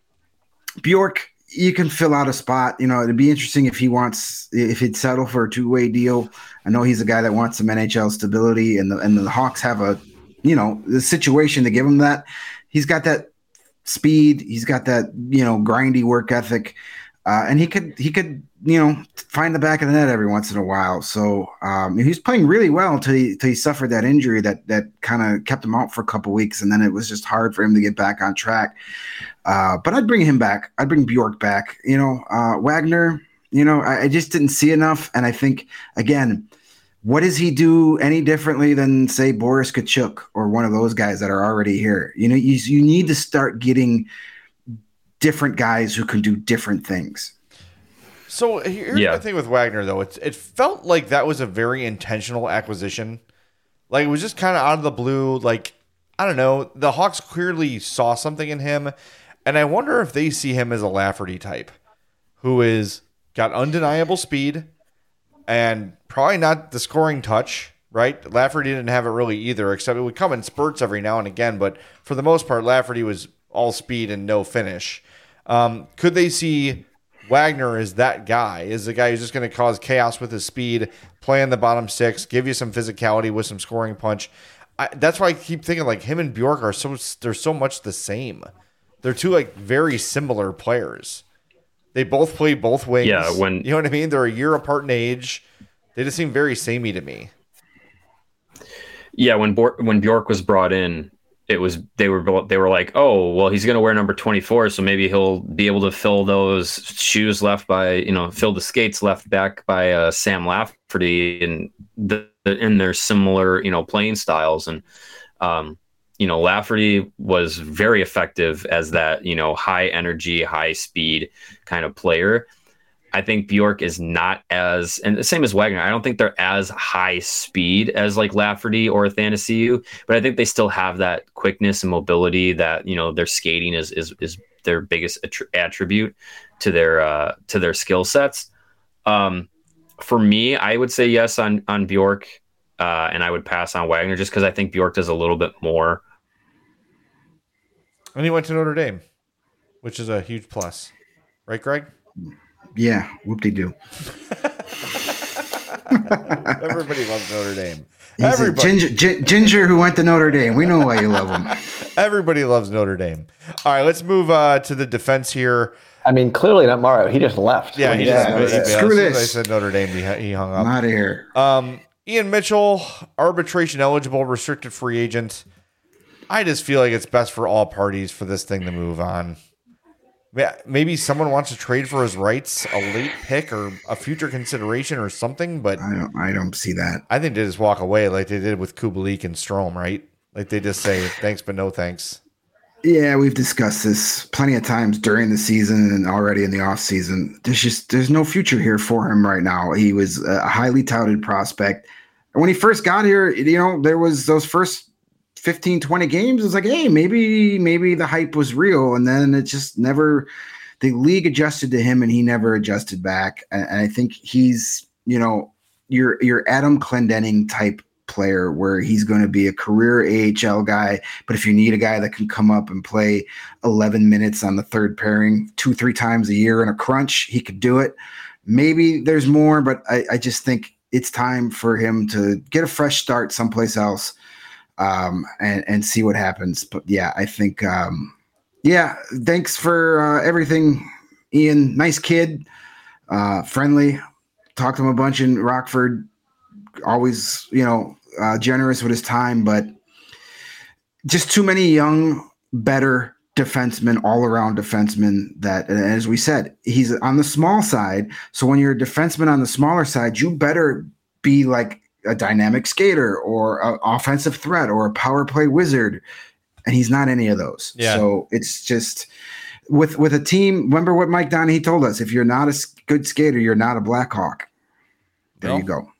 Bjork, you can fill out a spot. You know, it'd be interesting if he wants – if he'd settle for a two-way deal. I know he's a guy that wants some N H L stability, and the, and the Hawks have a – you know, the situation to give him that. He's got that speed. He's got that, you know, grindy work ethic. Uh, and he could, he could, you know, find the back of the net every once in a while. So um, he's playing really well until he, until he suffered that injury that, that kind of kept him out for a couple weeks. And then it was just hard for him to get back on track. Uh, but I'd bring him back. I'd bring Bjork back. You know, uh, Wagner, you know, I, I just didn't see enough. And I think, again, what does he do any differently than, say, Boris Kachuk or one of those guys that are already here? You know, you, you need to start getting different guys who can do different things. So here's yeah. the thing with Wagner, though. It's, it felt like that was a very intentional acquisition. Like, it was just kind of out of the blue. Like, I don't know. The Hawks clearly saw something in him. And I wonder if they see him as a Lafferty type who is got undeniable speed and probably not the scoring touch, right? Lafferty didn't have it really either, except it would come in spurts every now and again. But for the most part, Lafferty was all speed and no finish. Um, could they see Wagner as that guy, is the guy who's just going to cause chaos with his speed, play in the bottom six, give you some physicality with some scoring punch? I, that's why I keep thinking like him and Bjork are so they're so much the same. They're two like very similar players. They both play both wings. Yeah, when you know what I mean? They're a year apart in age. They just seem very samey to me. Yeah, when Bor- when Bjork was brought in, it was they were they were like, oh, well, he's going to wear number twenty-four, so maybe he'll be able to fill those shoes left by you know fill the skates left back by uh, Sam Lafferty and the, and their similar you know playing styles and um, you know, Lafferty was very effective as that, you know, high energy, high speed kind of player. I think Bjork is not as, and the same as Wagner. I don't think they're as high speed as like Lafferty or Athanasiou, but I think they still have that quickness and mobility that, you know, their skating is is is their biggest attr- attribute to their uh, to their skill sets. Um, for me, I would say yes on on Bjork, uh, and I would pass on Wagner just because I think Bjork does a little bit more. And he went to Notre Dame, which is a huge plus, right, Greg? Yeah, whoop-de-doo. Everybody loves Notre Dame. He's Everybody. Ginger, G- Ginger who went to Notre Dame. We know why you love him. Everybody loves Notre Dame. All right, let's move uh, to the defense here. I mean, clearly not Mario. He just left. Yeah, he yeah, just, yeah. he, Screw as soon this. as I said Notre Dame, he, he hung up. I'm out of here. Um, Ian Mitchell, arbitration eligible, restricted free agent. I just feel like it's best for all parties for this thing to move on. Maybe someone wants to trade for his rights, a late pick or a future consideration or something, but I don't. I don't see that. I think they just walk away like they did with Kubalik and Strome, right? Like they just say thanks, but no thanks. Yeah, we've discussed this plenty of times during the season and already in the off season. There's just there's no future here for him right now. He was a highly touted prospect. And when he first got here, you know, there was those first fifteen, twenty games. It was like, hey, maybe maybe the hype was real. And then it just never, the league adjusted to him and he never adjusted back. And, and I think he's, you know, your your Adam Clendenning type player where he's going to be a career A H L guy. But if you need a guy that can come up and play eleven minutes on the third pairing two, three times a year in a crunch, he could do it. Maybe there's more, but I, I just think it's time for him to get a fresh start someplace else. Um, and, and see what happens. But yeah, I think, um, yeah, thanks for uh, everything, Ian. Nice kid, uh, friendly. Talked to him a bunch in Rockford. Always, you know, uh, generous with his time, but just too many young, better defensemen, all around defensemen that, and as we said, he's on the small side. So when you're a defenseman on the smaller side, you better be like a dynamic skater or an offensive threat or a power play wizard. And he's not any of those. Yeah. So it's just with, with a team. Remember what Mike Donahue told us, if you're not a good skater, you're not a Blackhawk. There No. you go.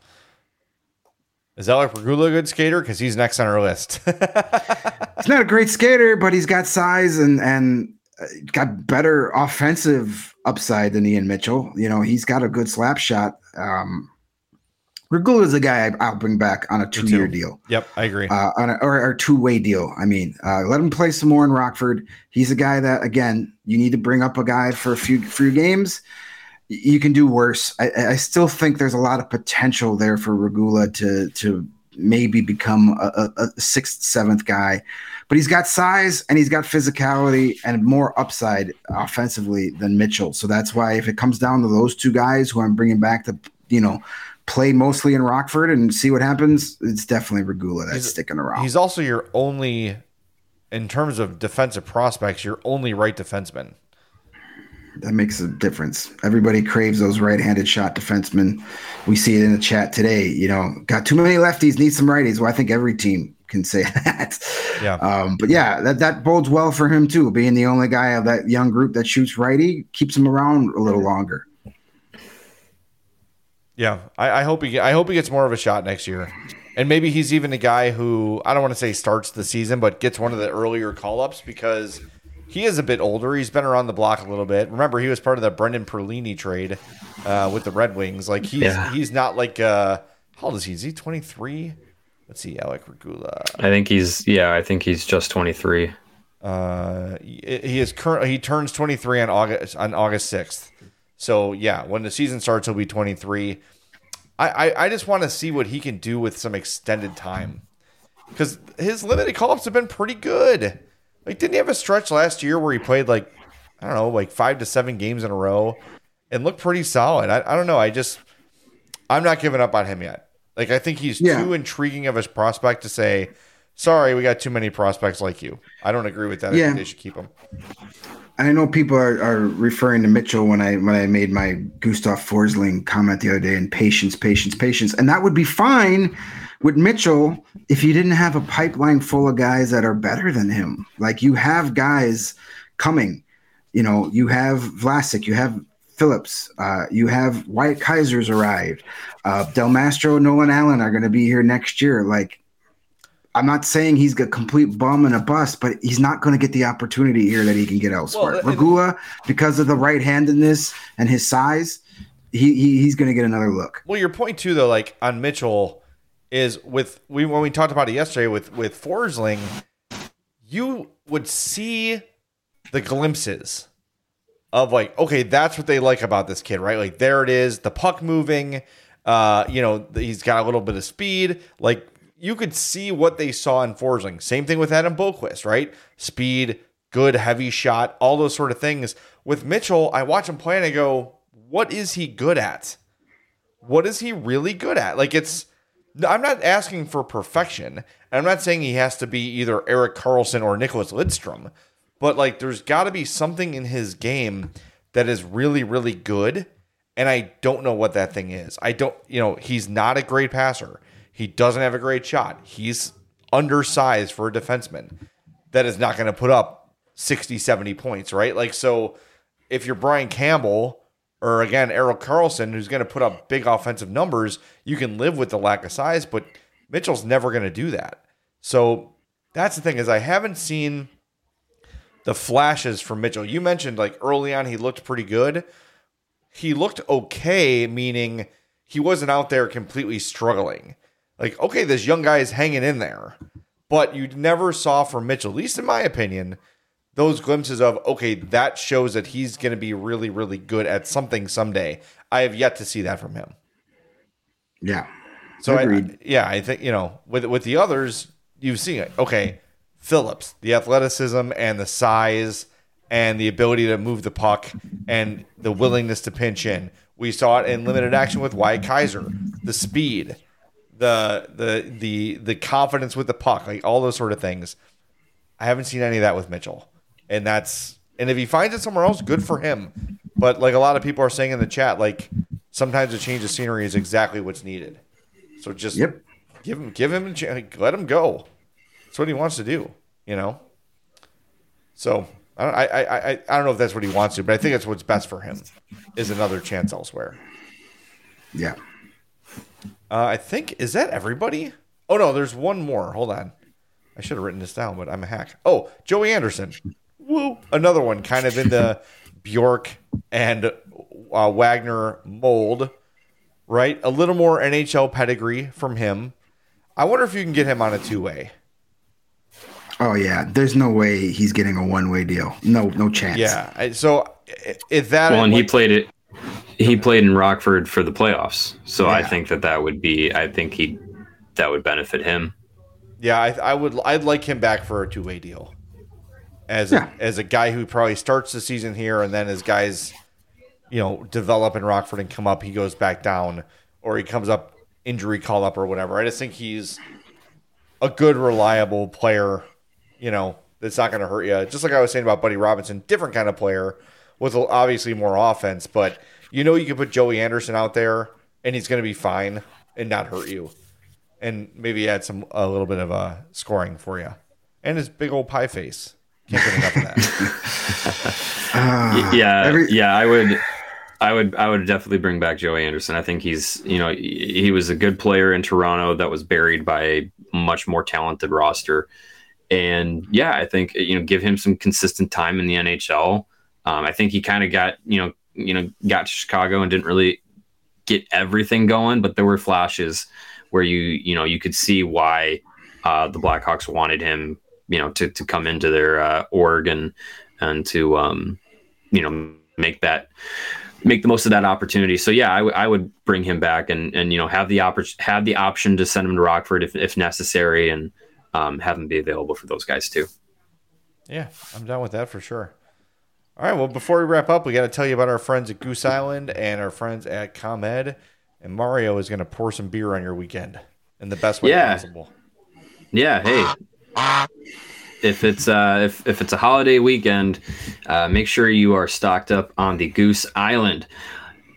Is Alec Regula a good skater? Because he's next on our list. He's not a great skater, but he's got size and, and got better offensive upside than Ian Mitchell. You know, he's got a good slap shot. Um, Regula is a guy I'll bring back on a two-year deal. Yep, I agree. Uh, on a, or, or two-way deal. I mean, uh, let him play some more in Rockford. He's a guy that, again, you need to bring up a guy for a few few games. You can do worse. I, I still think there's a lot of potential there for Regula to to maybe become a, a, a sixth, seventh guy. But he's got size and he's got physicality and more upside offensively than Mitchell. So that's why if it comes down to those two guys who I'm bringing back to, you know, play mostly in Rockford and see what happens, it's definitely Regula that's He's- sticking around. He's also your only, in terms of defensive prospects, your only right defenseman. That makes a difference. Everybody craves those right-handed shot defensemen. We see it in the chat today. You know, got too many lefties, need some righties. Well, I think every team can say that. Yeah. Um, but yeah, that, that bodes well for him too. Being the only guy of that young group that shoots righty keeps him around a little longer. Yeah, I, I hope he. I hope he gets more of a shot next year, and maybe he's even a guy who I don't want to say starts the season, but gets one of the earlier call ups because he is a bit older. He's been around the block a little bit. Remember, he was part of the Brendan Perlini trade uh, with the Red Wings. Like he's Yeah. he's not like uh, how old is he? Is he twenty-three? Let's see, Alec Regula. I think he's yeah, I think he's just twenty-three. Uh, he, he is current. He turns twenty-three on August on August sixth. So yeah, when the season starts, he'll be twenty-three. I, I, I just want to see what he can do with some extended time, because his limited call-ups have been pretty good. Like, didn't he have a stretch last year where he played like I don't know, like five to seven games in a row, and looked pretty solid? I, I don't know. I just I'm not giving up on him yet. Like, I think he's Yeah. too intriguing of a prospect to say, sorry, we got too many prospects like you. I don't agree with that. I Yeah. think they should keep him. And I know people are, are referring to Mitchell when I when I made my Gustav Forsling comment the other day, and patience, patience, patience. And that would be fine with Mitchell, if you didn't have a pipeline full of guys that are better than him, like you have guys coming, you know, you have Vlasic, you have Phillips, uh, you have Wyatt Kaiser's arrived, uh, Del Mastro, Nolan Allen are going to be here next year. Like, I'm not saying he's a complete bum and a bust, but he's not going to get the opportunity here that he can get elsewhere. Well, Regula, because of the right-handedness and his size, he, he he's going to get another look. Well, your point too, though, like on Mitchell, is with we when we talked about it yesterday with with Forsling, you would see the glimpses of like, okay, that's what they like about this kid, right? Like there it is, the puck moving, uh, you know, he's got a little bit of speed. Like you could see what they saw in Forsling. Same thing with Adam Boqvist, right? Speed, good heavy shot, all those sort of things. With Mitchell, I watch him play and I go, what is he good at? What is he really good at? Like it's, I'm not asking for perfection. I'm not saying he has to be either Erik Karlsson or Nicholas Lidstrom. But, like, there's got to be something in his game that is really, really good, and I don't know what that thing is. I don't, you know, he's not a great passer. He doesn't have a great shot. He's undersized for a defenseman that is not going to put up sixty, seventy points, right? Like, so if you're Brian Campbell or, again, Erik Karlsson, who's going to put up big offensive numbers, you can live with the lack of size, but Mitchell's never going to do that. So that's the thing is I haven't seen the flashes from Mitchell. You mentioned like early on he looked pretty good. He looked okay, meaning he wasn't out there completely struggling. Like, okay, this young guy is hanging in there. But you never saw from Mitchell, at least in my opinion, those glimpses of, okay, that shows that he's going to be really, really good at something someday. I have yet to see that from him. Yeah. So, I, yeah, I think, you know, with with the others, you've seen it. Okay, Phillips, the athleticism and the size and the ability to move the puck and the willingness to pinch in. We saw it in limited action with Wyatt Kaiser, the speed, the the the the confidence with the puck, like all those sort of things. I haven't seen any of that with Mitchell. And that's and if he finds it somewhere else, good for him. But like a lot of people are saying in the chat, like sometimes a change of scenery is exactly what's needed. So just yep. give him give him a chance, let him go. That's what he wants to do, you know? So I don't, I, I, I, I don't know if that's what he wants to, but I think that's what's best for him is another chance elsewhere. Yeah. Uh, I think, is that everybody? Oh, no, there's one more. Hold on. I should have written this down, but I'm a hack. Oh, Joey Anderson. Woo. Another one kind of in the Bjork and uh, Wagner mold, right? A little more N H L pedigree from him. I wonder if you can get him on a two-way. Oh yeah, there's no way he's getting a one-way deal. No, no chance. Yeah. So if that well, and he played it. He played in Rockford for the playoffs, so yeah. I think that that would be. I think he that would benefit him. Yeah, I, I would. I'd like him back for a two-way deal. As yeah. a, as a guy who probably starts the season here, and then as guys, you know, develop in Rockford and come up, he goes back down, or he comes up injury call up or whatever. I just think he's a good, reliable player. You know, that's not going to hurt you. Just like I was saying about Buddy Robinson, different kind of player with obviously more offense, but you know you can put Joey Anderson out there and he's going to be fine and not hurt you. And maybe add some a little bit of uh, scoring for you. And his big old pie face. Can't get enough of that. uh, yeah, every- yeah, I would I would I would definitely bring back Joey Anderson. I think he's, you know, he was a good player in Toronto that was buried by a much more talented roster. And yeah, I think, you know, give him some consistent time in the N H L. Um, I think he kind of got, you know, you know, got to Chicago and didn't really get everything going, but there were flashes where you, you know, you could see why uh, the Blackhawks wanted him, you know, to, to come into their uh, org and, and to, um, you know, make that, make the most of that opportunity. So yeah, I, w- I would bring him back and, and, you know, have the oppor- have the option to send him to Rockford if, if necessary, and um, have him be available for those guys too. Yeah, I'm down with that for sure. All right, well, before we wrap up, we got to tell you about our friends at Goose Island and our friends at ComEd. And Mario is going to pour some beer on your weekend in the best way yeah. possible. Yeah, hey. If it's uh, if if it's a holiday weekend, uh, make sure you are stocked up on the Goose Island.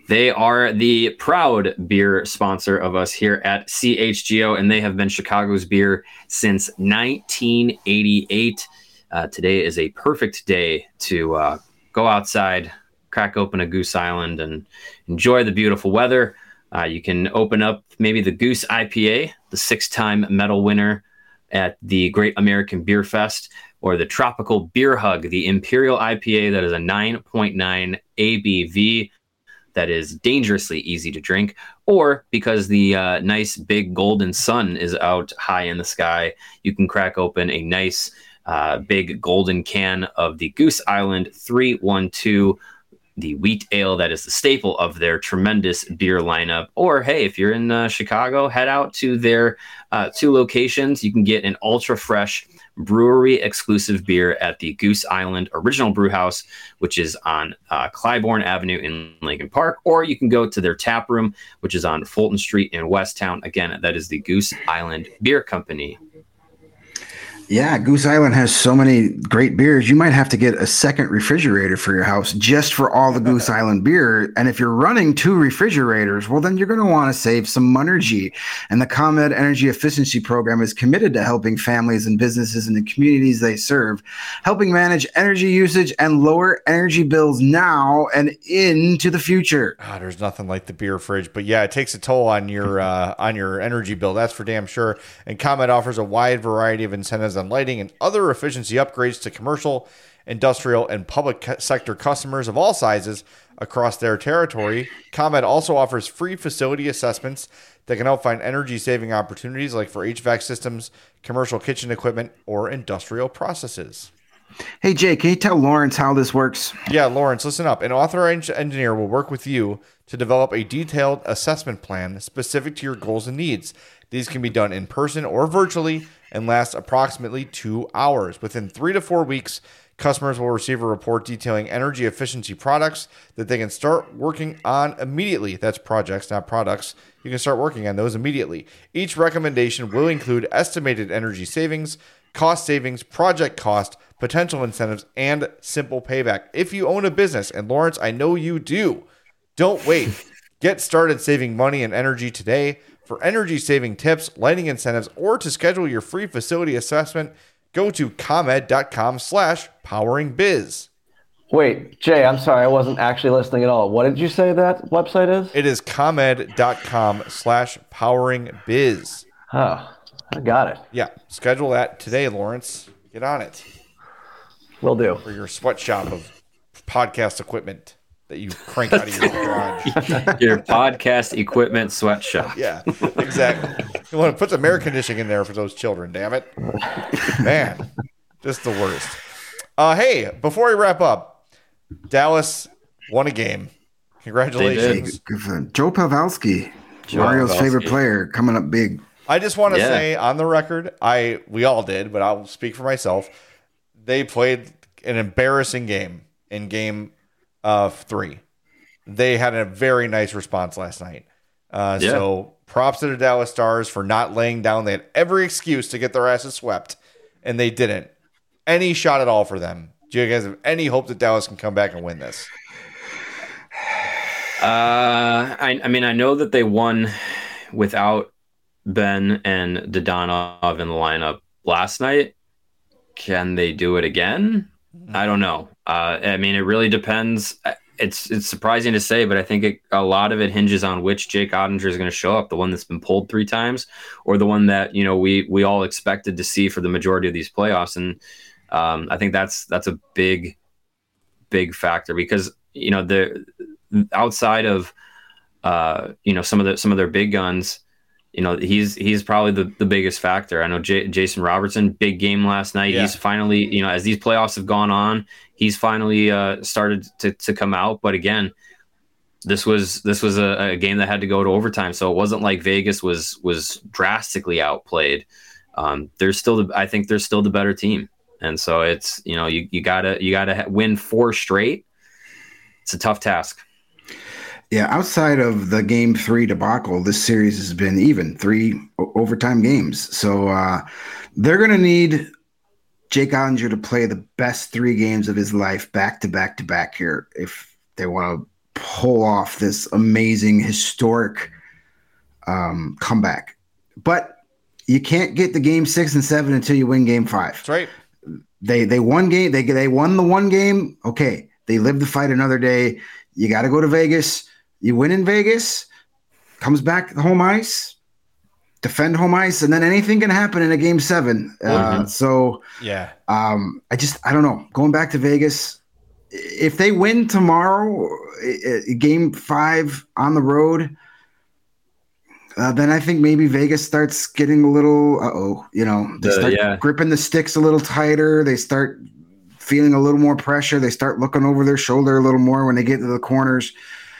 They are the proud beer sponsor of us here at C H G O, and they have been Chicago's beer since nineteen eighty-eight. Uh, today is a perfect day to uh, go outside, crack open a Goose Island, and enjoy the beautiful weather. Uh, you can open up maybe the Goose I P A, the six-time medal winner at the Great American Beer Fest, or the Tropical Beer Hug, the Imperial I P A that is a nine point nine A B V. That is dangerously easy to drink, or because the uh, nice big golden sun is out high in the sky, you can crack open a nice uh, big golden can of the Goose Island three one two, the wheat ale that is the staple of their tremendous beer lineup. Or hey, if you're in uh, Chicago, head out to their uh, two locations. You can get an ultra fresh brewery exclusive beer at the Goose Island Original Brew House, which is on uh, Clybourne Avenue in Lincoln Park, or you can go to their tap room, which is on Fulton Street in Westtown. Again, that is the Goose Island Beer Company. Yeah, Goose Island has so many great beers. You might have to get a second refrigerator for your house just for all the Goose Island beer. And if you're running two refrigerators, well, then you're going to want to save some energy. And the ComEd Energy Efficiency Program is committed to helping families and businesses in the communities they serve, helping manage energy usage and lower energy bills now and into the future. Ah, there's nothing like the beer fridge, but yeah, it takes a toll on your uh, on your energy bill. That's for damn sure. And ComEd offers a wide variety of incentives on lighting and other efficiency upgrades to commercial, industrial, and public sector customers of all sizes across their territory. ComEd also offers free facility assessments that can help find energy-saving opportunities like for H V A C systems, commercial kitchen equipment, or industrial processes. Hey, Jay, can you tell Lawrence how this works? Yeah, Lawrence, listen up. An authorized engineer will work with you to develop a detailed assessment plan specific to your goals and needs. These can be done in person or virtually and last approximately two hours. Within three to four weeks, customers will receive a report detailing energy efficiency products that they can start working on immediately. That's projects, not products. You can start working on those immediately. Each recommendation will include estimated energy savings, cost savings, project cost, potential incentives, and simple payback. If you own a business, and Lawrence, I know you do, don't wait. Get started saving money and energy today. For energy-saving tips, lighting incentives, or to schedule your free facility assessment, go to ComEd.com slash poweringbiz. Wait, Jay, I'm sorry. I wasn't actually listening at all. What did you say that website is? It is ComEd.com slash poweringbiz. Oh, I got it. Yeah, schedule that today, Lawrence. Get on it. Will do. For your sweatshop of podcast equipment that you crank out of your garage. Your podcast equipment sweatshop. Yeah, exactly. You want to put some air conditioning in there for those children, damn it. Man, just the worst. Uh, hey, before we wrap up, Dallas won a game. Congratulations. Good for them. Joe Pavelski, Joe Mario's Pavelski. favorite player, coming up big. I just want to Yeah. say on the record, I we all did, but I'll speak for myself. They played an embarrassing game in game uh, three. They had a very nice response last night. Uh, Yeah. So props to the Dallas Stars for not laying down. They had every excuse to get their asses swept, and they didn't. Any shot at all for them? Do you guys have any hope that Dallas can come back and win this? Uh, I, I mean, I know that they won without Ben and Dodonov in the lineup last night. Can they do it again? I don't know. Uh, I mean, it really depends. It's it's surprising to say, but I think it, a lot of it hinges on which Jake Ottinger is going to show up, the one that's been pulled three times or the one that, you know, we we all expected to see for the majority of these playoffs. And um, I think that's that's a big, big factor because, you know, the outside of, uh, you know, some of the some of their big guns, you know, he's he's probably the, the biggest factor. I know J- Jason Robertson, big game last night. Yeah. He's finally, you know, as these playoffs have gone on, he's finally uh, started to, to come out. But again, this was this was a, a game that had to go to overtime, so it wasn't like Vegas was was drastically outplayed. Um, there's still, the, I think, there's still the better team, and so it's, you know, you you gotta you gotta win four straight. It's a tough task. Yeah, outside of the game three debacle, this series has been even three o- overtime games. So uh, they're going to need Jake Ottinger to play the best three games of his life back to back to back here if they want to pull off this amazing historic um, comeback. But you can't get the game six and seven until you win game five. That's right. They they won game. They they won the one game. Okay, they live to fight another day. You got to go to Vegas. You win in Vegas, comes back to home ice, defend home ice, and then anything can happen in a game seven. Mm-hmm. Uh, so Yeah. um, I just I don't know. Going back to Vegas, if they win tomorrow, uh, game five on the road. Uh, then I think maybe Vegas starts getting a little, uh-oh, you know, they The- start yeah. gripping the sticks a little tighter. They start feeling a little more pressure. They start looking over their shoulder a little more when they get to the corners.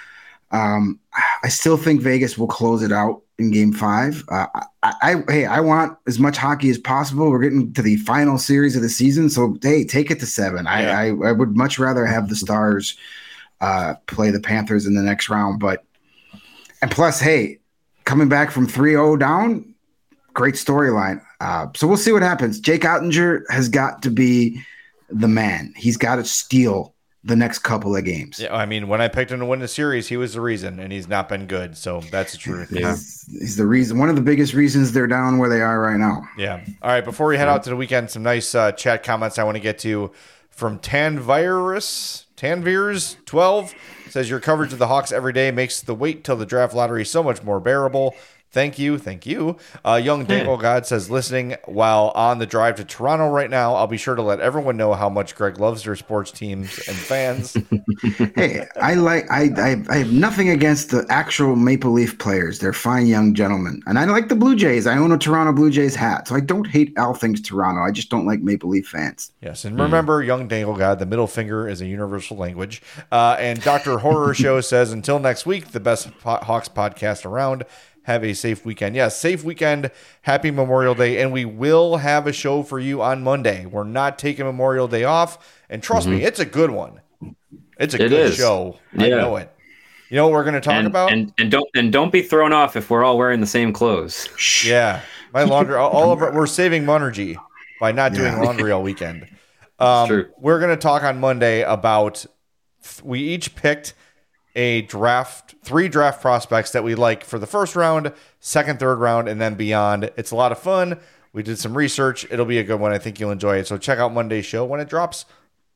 Um, I still think Vegas will close it out in game five. Uh, I, I, hey, I want as much hockey as possible. We're getting to the final series of the season. So, hey, take it to seven. Yeah. I, I, I would much rather have the Stars uh, play the Panthers in the next round. But, and plus, hey, coming back from three oh down, great storyline. Uh, so we'll see what happens. Jake Ottinger has got to be the man. He's got to steal the next couple of games. Yeah, I mean, when I picked him to win the series, he was the reason, and he's not been good. So that's the truth. Yeah. He's, he's the reason, one of the biggest reasons they're down where they are right now. Yeah. All right. Before we head out to the weekend, some nice uh, chat comments I want to get to from Tanvirus. Tanvirs twelve says your coverage of the Hawks every day makes the wait till the draft lottery so much more bearable. Thank you. Thank you. Uh, Young Dangle God says, listening while on the drive to Toronto right now. I'll be sure to let everyone know how much Greg loves their sports teams and fans. Hey, I like I, I I have nothing against the actual Maple Leaf players. They're fine young gentlemen. And I like the Blue Jays. I own a Toronto Blue Jays hat. So I don't hate all things Toronto. I just don't like Maple Leaf fans. Yes, and remember, Young Dangle God, the middle finger is a universal language. Uh, and Doctor Horror Show says, until next week, the best po- Hawks podcast around. Have a safe weekend. Yes, safe weekend. Happy Memorial Day. And we will have a show for you on Monday. We're not taking Memorial Day off. And trust me, it's a good one. It's a It good is. show. I Yeah. know it. You know what we're going to talk and, about? and and don't and don't be thrown off if we're all wearing the same clothes. Yeah, my laundry. all of our, we're saving energy by not doing Yeah. laundry all weekend. Um, true. We're going to talk on Monday about. We each picked a draft, three draft prospects that we like for the first round, second, third round, and then beyond. It's a lot of fun. We did some research. It'll be a good one. I think you'll enjoy it. So check out Monday's show when it drops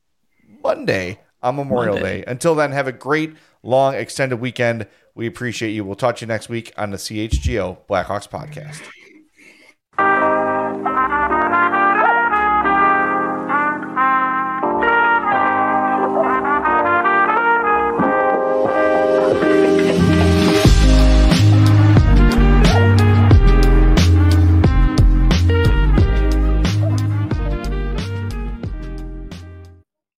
Monday on Memorial Monday. Day. Until then, have a great, long, extended weekend. We appreciate you. We'll talk to you next week on the C H G O Blackhawks podcast.